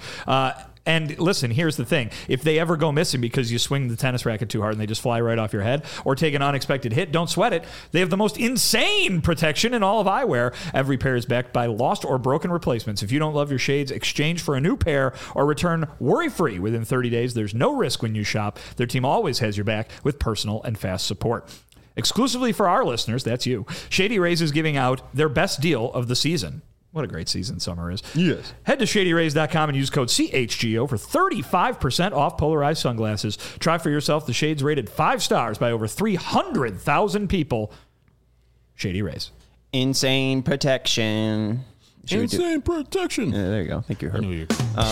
And listen, here's the thing. If they ever go missing because you swing the tennis racket too hard and they just fly right off your head or take an unexpected hit, don't sweat it. They have the most insane protection in all of eyewear. Every pair is backed by lost or broken replacements. If you don't love your shades, exchange for a new pair or return worry-free within 30 days. There's no risk when you shop. Their team always has your back with personal and fast support. Exclusively for our listeners, that's you, Shady Rays is giving out their best deal of the season. What a great season summer is. Yes. Head to ShadyRays.com and use code CHGO for 35% off polarized sunglasses. Try for yourself the shades rated 5 stars by over 300,000 people. Shady Rays. Insane protection. Insane protection. Yeah, there you go. Thank you, Herb. I knew you.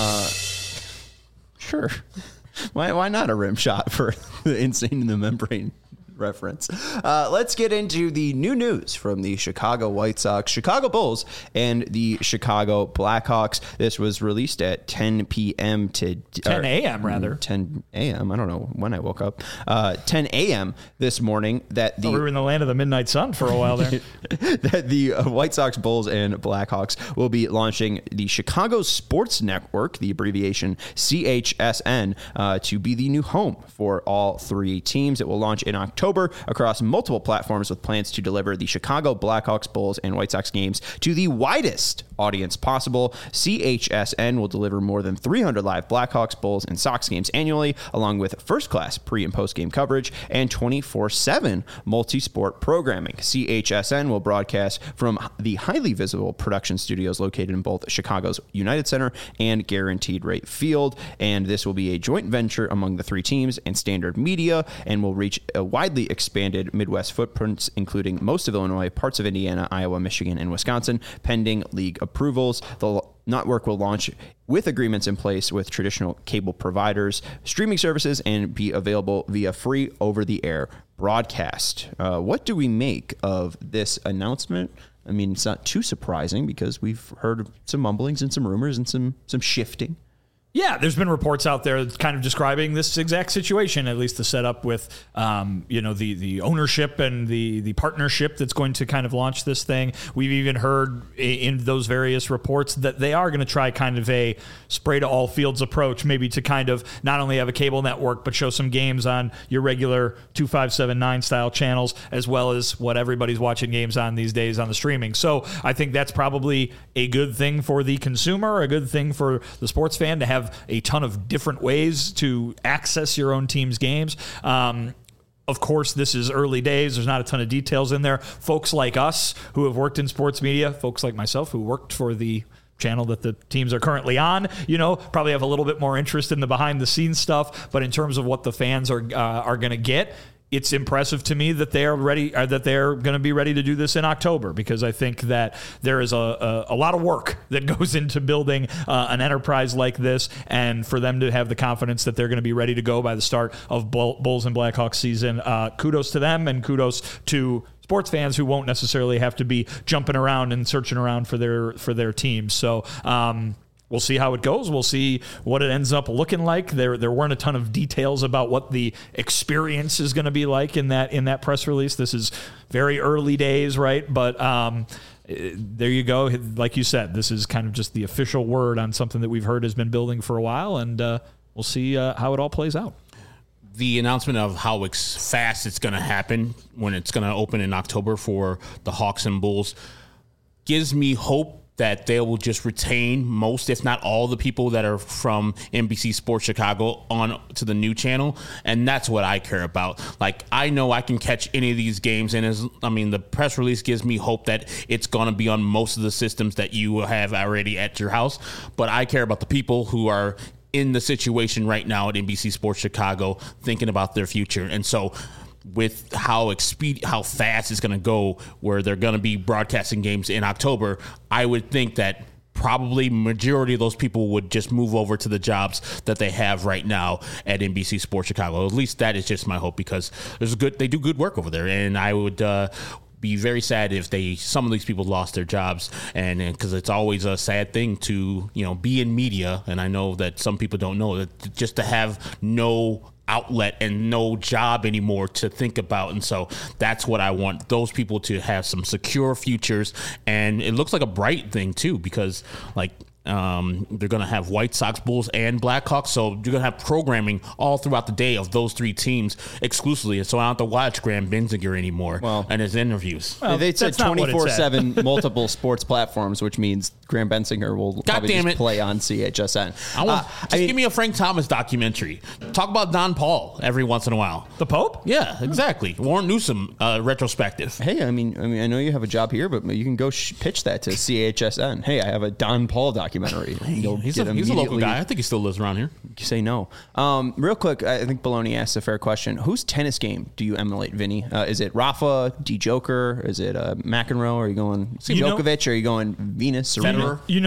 Sure. Why not a rim shot for the insane in the membrane reference? Let's get into the new news from the Chicago White Sox, Chicago Bulls, and the Chicago Blackhawks. This was released at 10 p.m. 10 a.m. rather. 10 a.m. I don't know when I woke up. 10 a.m. this morning. We were in the land of the midnight sun for a while there. That the White Sox, Bulls, and Blackhawks will be launching the Chicago Sports Network, the abbreviation CHSN, to be the new home for all 3 teams. It will launch in October across multiple platforms with plans to deliver the Chicago Blackhawks, Bulls, and White Sox games to the widest audience possible. CHSN will deliver more than 300 live Blackhawks, Bulls, and Sox games annually, along with first-class pre- and post-game coverage and 24/7 multi-sport programming. CHSN will broadcast from the highly visible production studios located in both Chicago's United Center and Guaranteed Rate Field, and this will be a joint venture among the 3 teams and Standard Media, and will reach a widely expanded Midwest footprints, including most of Illinois, parts of Indiana, Iowa, Michigan, and Wisconsin, pending league approvals. The network will launch with agreements in place with traditional cable providers, streaming services, and be available via free over-the-air broadcast. What do we make of this announcement? I mean, it's not too surprising because we've heard some mumblings and some rumors and some shifting. Yeah, there's been reports out there kind of describing this exact situation, at least the setup with, the ownership and the partnership that's going to kind of launch this thing. We've even heard in those various reports that they are going to try kind of a spray to all fields approach, maybe to kind of not only have a cable network, but show some games on your regular 2579 style channels, as well as what everybody's watching games on these days on the streaming. So I think that's probably a good thing for the consumer, a good thing for the sports fan to have have a ton of different ways to access your own team's games. Of course, this is early days. There's not a ton of details in there. Folks like us who have worked in sports media, folks like myself who worked for the channel that the teams are currently on, probably have a little bit more interest in the behind the scenes stuff. But in terms of what the fans are going to get, it's impressive to me that they are ready, that they're going to be ready to do this in October, because I think that there is a lot of work that goes into building an enterprise like this, and for them to have the confidence that they're going to be ready to go by the start of Bulls and Blackhawks season, kudos to them, and kudos to sports fans who won't necessarily have to be jumping around and searching around for their teams. So, we'll see how it goes. We'll see what it ends up looking like. There weren't a ton of details about what the experience is going to be like in that press release. This is very early days, right? But there you go. Like you said, this is kind of just the official word on something that we've heard has been building for a while, and we'll see how it all plays out. The announcement of how fast it's going to happen when it's going to open in October for the Hawks and Bulls gives me hope that they will just retain most, if not all, the people that are from NBC Sports Chicago on to the new channel. And that's what I care about. Like, I know I can catch any of these games. And the press release gives me hope that it's going to be on most of the systems that you have already at your house. But I care about the people who are in the situation right now at NBC Sports Chicago thinking about their future. And so with how fast it's going to go, where they're going to be broadcasting games in October, I would think that probably majority of those people would just move over to the jobs that they have right now at NBC Sports Chicago. At least that is just my hope, because they do good work over there, and I would be very sad if some of these people lost their jobs, and because it's always a sad thing to be in media, and I know that some people don't know that, just to have no outlet and no job anymore to think about. And so that's what I want, those people to have some secure futures. And it looks like a bright thing too, because they're going to have White Sox, Bulls, and Blackhawks. So you're going to have programming all throughout the day of those three teams exclusively. And so I don't have to watch Graham Benzinger anymore and his interviews. Well, they said 24/7 multiple sports platforms, which means Graham Benzinger will probably just play on CHSN. Give me a Frank Thomas documentary. Talk about Don Paul every once in a while. The Pope? Yeah, exactly. Warren Newsom retrospective. Hey, I mean, I know you have a job here, but you can go pitch that to CHSN. Hey, I have a Don Paul documentary. He's a local guy. I think he still lives around here. You say no. Real quick, I think Baloney asked a fair question. Whose tennis game do you emulate, Vinny? Is it Rafa, D. Joker? Is it McEnroe? Are you going Djokovic? Or are you going Venus, Serena?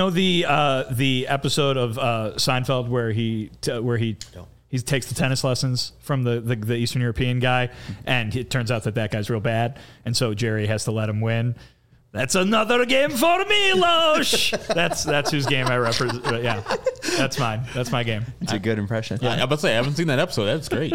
The episode of Seinfeld where he takes the tennis lessons from the Eastern European guy, and it turns out that guy's real bad, and so Jerry has to let him win. That's another game for Milos. That's whose game I represent. Yeah, that's mine. That's my game. It's a good impression. Yeah, I'm about to say I haven't seen that episode. That's great.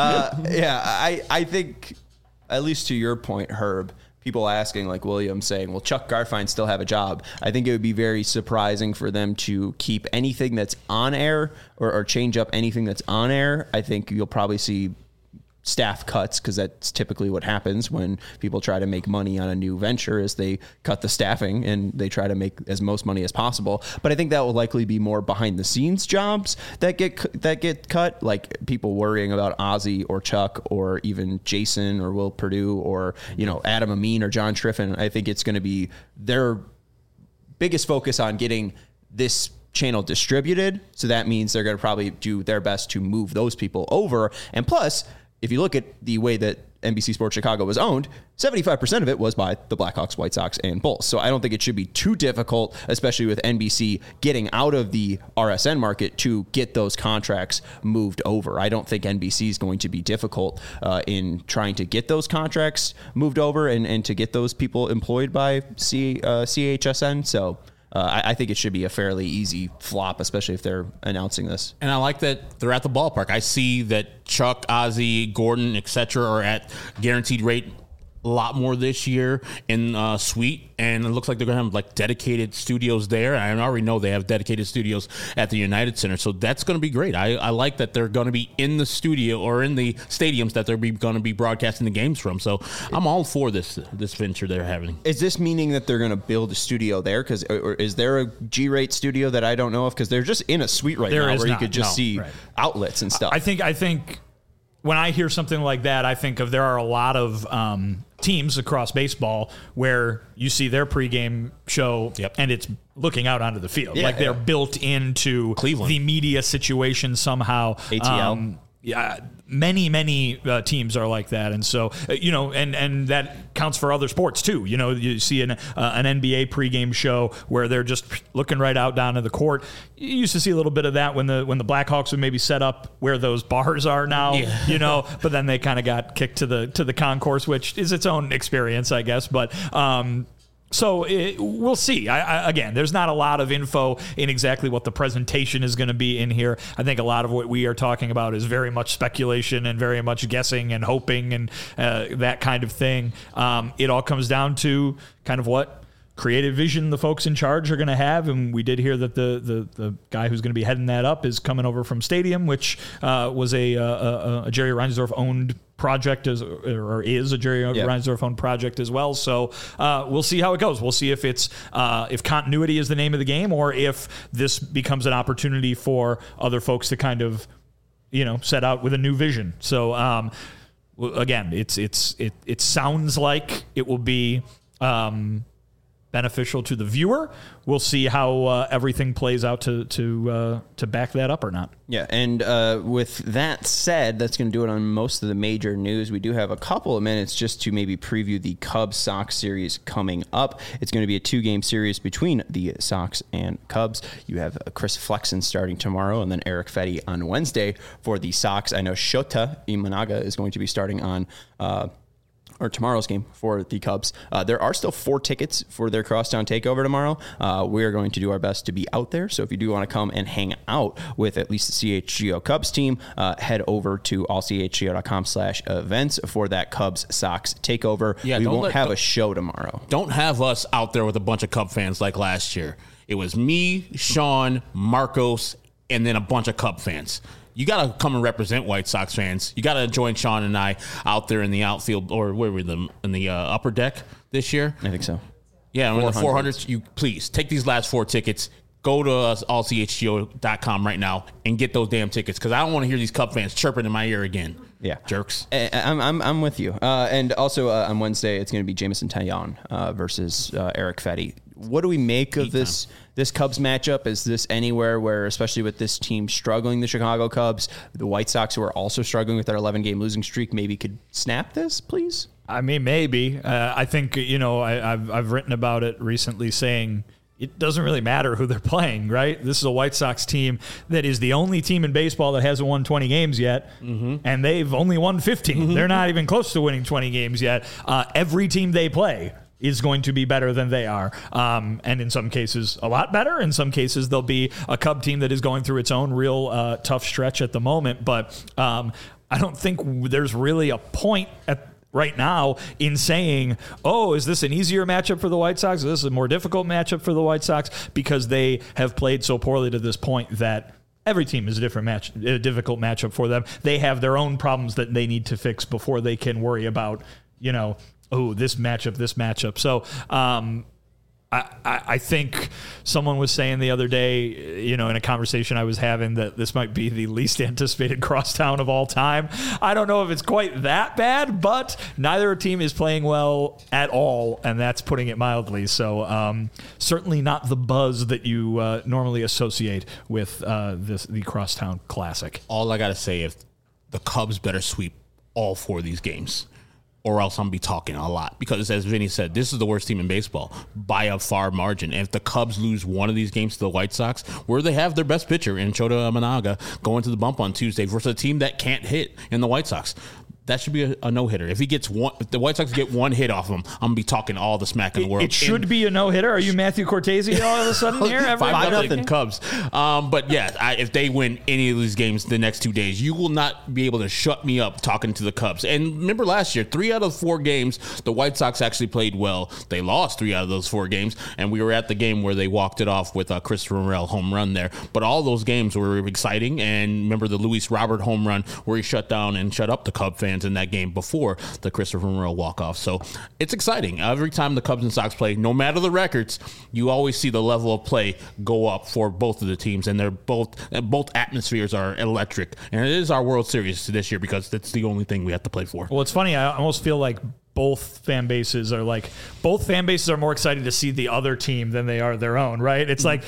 I think, at least to your point, Herb, people asking, like William saying, will Chuck Garfien still have a job? I think it would be very surprising for them to keep anything that's on air or change up anything that's on air. I think you'll probably see staff cuts, because that's typically what happens when people try to make money on a new venture, is they cut the staffing and they try to make as most money as possible. But I think that will likely be more behind the scenes jobs that get cut, like people worrying about Ozzy or Chuck or even Jason or Will Perdue or Adam Amin or John Triffin. I think it's going to be their biggest focus on getting this channel distributed. So that means they're going to probably do their best to move those people over. And plus, if you look at the way that NBC Sports Chicago was owned, 75% of it was by the Blackhawks, White Sox, and Bulls. So I don't think it should be too difficult, especially with NBC getting out of the RSN market, to get those contracts moved over. I don't think NBC is going to be difficult in trying to get those contracts moved over and to get those people employed by CHSN. So I think it should be a fairly easy flop, especially if they're announcing this. And I like that they're at the ballpark. I see that Chuck, Ozzy, Gordon, etc. are at guaranteed rate a lot more this year in Suite, and it looks like they're going to have like dedicated studios there. I already know they have dedicated studios at the United Center, so that's going to be great. I like that they're going to be in the studio or in the stadiums that they're going to be broadcasting the games from. So I'm all for this venture they're having. Is this meaning that they're going to build a studio there? Or is there a G-Rate studio that I don't know of? Because they're just in a suite now where you could just see outlets and stuff. I think when I hear something like that, I think of there are a lot of teams across baseball where you see their pregame show and it's looking out onto the field. Like they're built into Cleveland. The media situation somehow. ATL. Many teams are like that, and so and that counts for other sports too. You see an NBA pregame show where they're just looking right out down to the court. You used to see a little bit of that when the Blackhawks would maybe set up where those bars are now. But then they kind of got kicked to the concourse, which is its own experience, I guess. But so we'll see. Again, there's not a lot of info in exactly what the presentation is going to be in here. I think a lot of what we are talking about is very much speculation and very much guessing and hoping and that kind of thing. It all comes down to kind of what creative vision the folks in charge are going to have, and we did hear that the guy who's going to be heading that up is coming over from Stadium, which was a Jerry Reinsdorf owned project is a Jerry Reinsdorf owned project as well. So we'll see how it goes. We'll see if it's if continuity is the name of the game, or if this becomes an opportunity for other folks to kind of set out with a new vision. So again, it sounds like it will be beneficial to the viewer. We'll see how everything plays out to back that up or not. Yeah, and with that said, that's going to do it on most of the major news. We do have a couple of minutes just to maybe preview the Cubs-Sox series coming up. It's going to be a 2-game series between the Sox and Cubs. You have Chris Flexen starting tomorrow, and then Eric Fedde on Wednesday for the Sox. I know Shota Imanaga is going to be starting on or tomorrow's game for the Cubs. There are still 4 tickets for their Crosstown Takeover tomorrow. We are going to do our best to be out there. So if you do want to come and hang out with at least the CHGO Cubs team, head over to allchgo.com/events for that Cubs Sox Takeover. Yeah, we won't have a show tomorrow. Don't have us out there with a bunch of Cub fans like last year. It was me, Sean, Marcos, and then a bunch of Cub fans. You got to come and represent White Sox fans. You got to join Sean and I out there in the outfield, or where were them in the upper deck this year? I think so. Yeah, on the 400s. You please take these last 4 tickets. Go to allchgo.com right now and get those damn tickets, because I don't want to hear these Cub fans chirping in my ear again. Yeah, jerks. I'm with you. And also on Wednesday, it's going to be Jameson Taillon versus Eric Fedde. What do we make of this Cubs matchup? Is this anywhere where, especially with this team struggling, the Chicago Cubs, the White Sox, who are also struggling with their 11-game losing streak, maybe could snap this, please? I mean, maybe. I think, I've written about it recently saying it doesn't really matter who they're playing, right? This is a White Sox team that is the only team in baseball that hasn't won 20 games yet, and they've only won 15. They're not even close to winning 20 games yet. Every team they play is going to be better than they are. And in some cases, a lot better. In some cases, they'll be a Cub team that is going through its own real tough stretch at the moment. But I don't think there's really a point right now in saying, oh, is this an easier matchup for the White Sox? Is this a more difficult matchup for the White Sox? Because they have played so poorly to this point that every team is a difficult matchup for them. They have their own problems that they need to fix before they can worry about, this matchup. So I think someone was saying the other day, in a conversation I was having, that this might be the least anticipated crosstown of all time. I don't know if it's quite that bad, but neither team is playing well at all, and that's putting it mildly. So certainly not the buzz that you normally associate with the Crosstown Classic. All I got to say is the Cubs better sweep all 4 of these games, or else I'm going to be talking a lot. Because as Vinny said, this is the worst team in baseball by a far margin. And if the Cubs lose one of these games to the White Sox, where they have their best pitcher in Shota Imanaga going to the bump on Tuesday versus a team that can't hit in the White Sox, that should be a no-hitter. If the White Sox get one hit off him, I'm going to be talking all the smack in the world. It should be a no-hitter. Are you Matthew Cortese all of a sudden here? 5-0 Cubs. But yeah, if they win any of these games the next 2 days, you will not be able to shut me up talking to the Cubs. And remember last year, 3 out of 4 games, the White Sox actually played well. They lost 3 out of those 4 games, and we were at the game where they walked it off with a Christopher Morel home run there. But all those games were exciting, and remember the Luis Robert home run where he shut down and shut up the Cub fans in that game before the Christopher Morel walk-off. So it's exciting. Every time the Cubs and Sox play, no matter the records, you always see the level of play go up for both of the teams, and they're both atmospheres are electric. And it is our World Series this year because that's the only thing we have to play for. Well, it's funny. I almost feel like both fan bases are more excited to see the other team than they are their own, right? It's like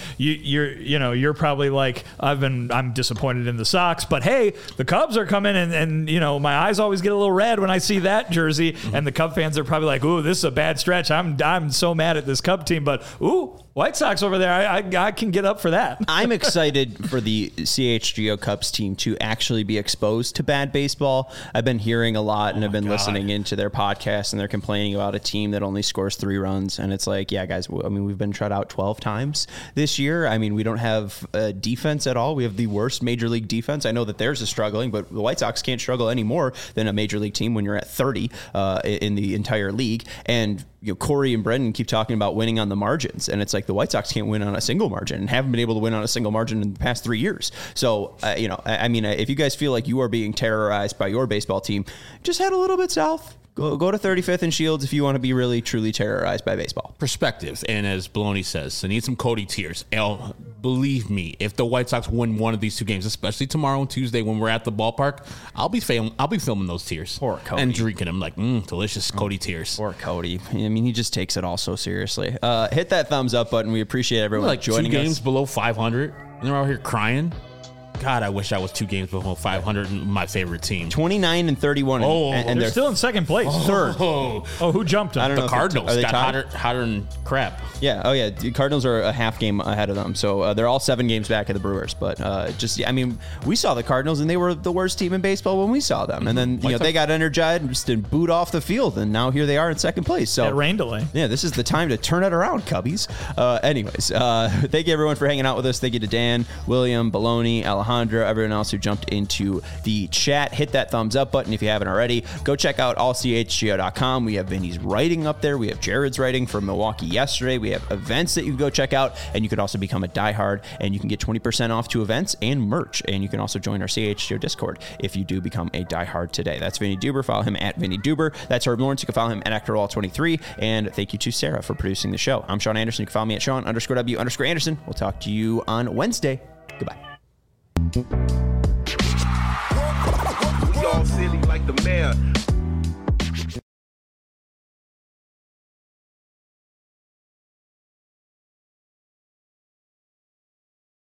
you're probably like, I'm disappointed in the Sox, but hey, the Cubs are coming and my eyes always get a little red when I see that jersey, and the Cub fans are probably like, ooh, this is a bad stretch. I'm so mad at this Cub team, but ooh, White Sox over there, I can get up for that. I'm excited for the CHGO Cubs team to actually be exposed to bad baseball. I've been hearing a lot, and I've been listening into their podcast, and they're complaining about a team that only scores 3 runs. And it's like, yeah, guys, I mean, we've been shut out 12 times this year. I mean, we don't have defense at all. We have the worst major league defense. I know that theirs is struggling, but the White Sox can't struggle any more than a major league team when you're at 30 in the entire league. And Corey and Brendan keep talking about winning on the margins, and it's like the White Sox can't win on a single margin and haven't been able to win on a single margin in the past 3 years. So, I mean, if you guys feel like you are being terrorized by your baseball team, just head a little bit south. Go to 35th and Shields if you want to be really, truly terrorized by baseball. Perspective, and as Baloney says, I need some Cody tears. Believe me, if the White Sox win one of these 2 games, especially tomorrow and Tuesday when we're at the ballpark, I'll be filming those tears. Poor Cody. And drinking them like, delicious Cody tears. Poor Cody. I mean, he just takes it all so seriously. Hit that thumbs up button. We appreciate everyone joining us. 2 games below 500, and they're out here crying. God, I wish I was 2 games below 500 and my favorite team. 29 and 31. And they're still in second place. Third. Oh, who jumped them? I don't know. The Cardinals got hotter than crap. Yeah. Oh, yeah. The Cardinals are a half game ahead of them. So they're all 7 games back of the Brewers. But I mean, we saw the Cardinals, and they were the worst team in baseball when we saw them. And then, they got energized and just booed off the field. And now here they are in second place. So at rain delay. Yeah, this is the time to turn it around, Cubbies. Anyways, thank you, everyone, for hanging out with us. Thank you to Dan, William, Baloney, Alejandro, everyone else who jumped into the chat. Hit that thumbs up button if you haven't already. Go check out allchgo.com. We have Vinny's writing up there. We have Jared's writing from Milwaukee yesterday. We have events that you can go check out, and you can also become a diehard, and you can get 20% off to events and merch. And you can also join our CHGO Discord if you do become a diehard today. That's Vinny Duber. Follow him at Vinny Duber. That's Herb Lawrence. You can follow him at ActorWall23. And thank you to Sarah for producing the show. I'm Sean Anderson. You can follow me at Sean_W_Anderson. We'll talk to you on Wednesday. Goodbye. We all silly like the mayor.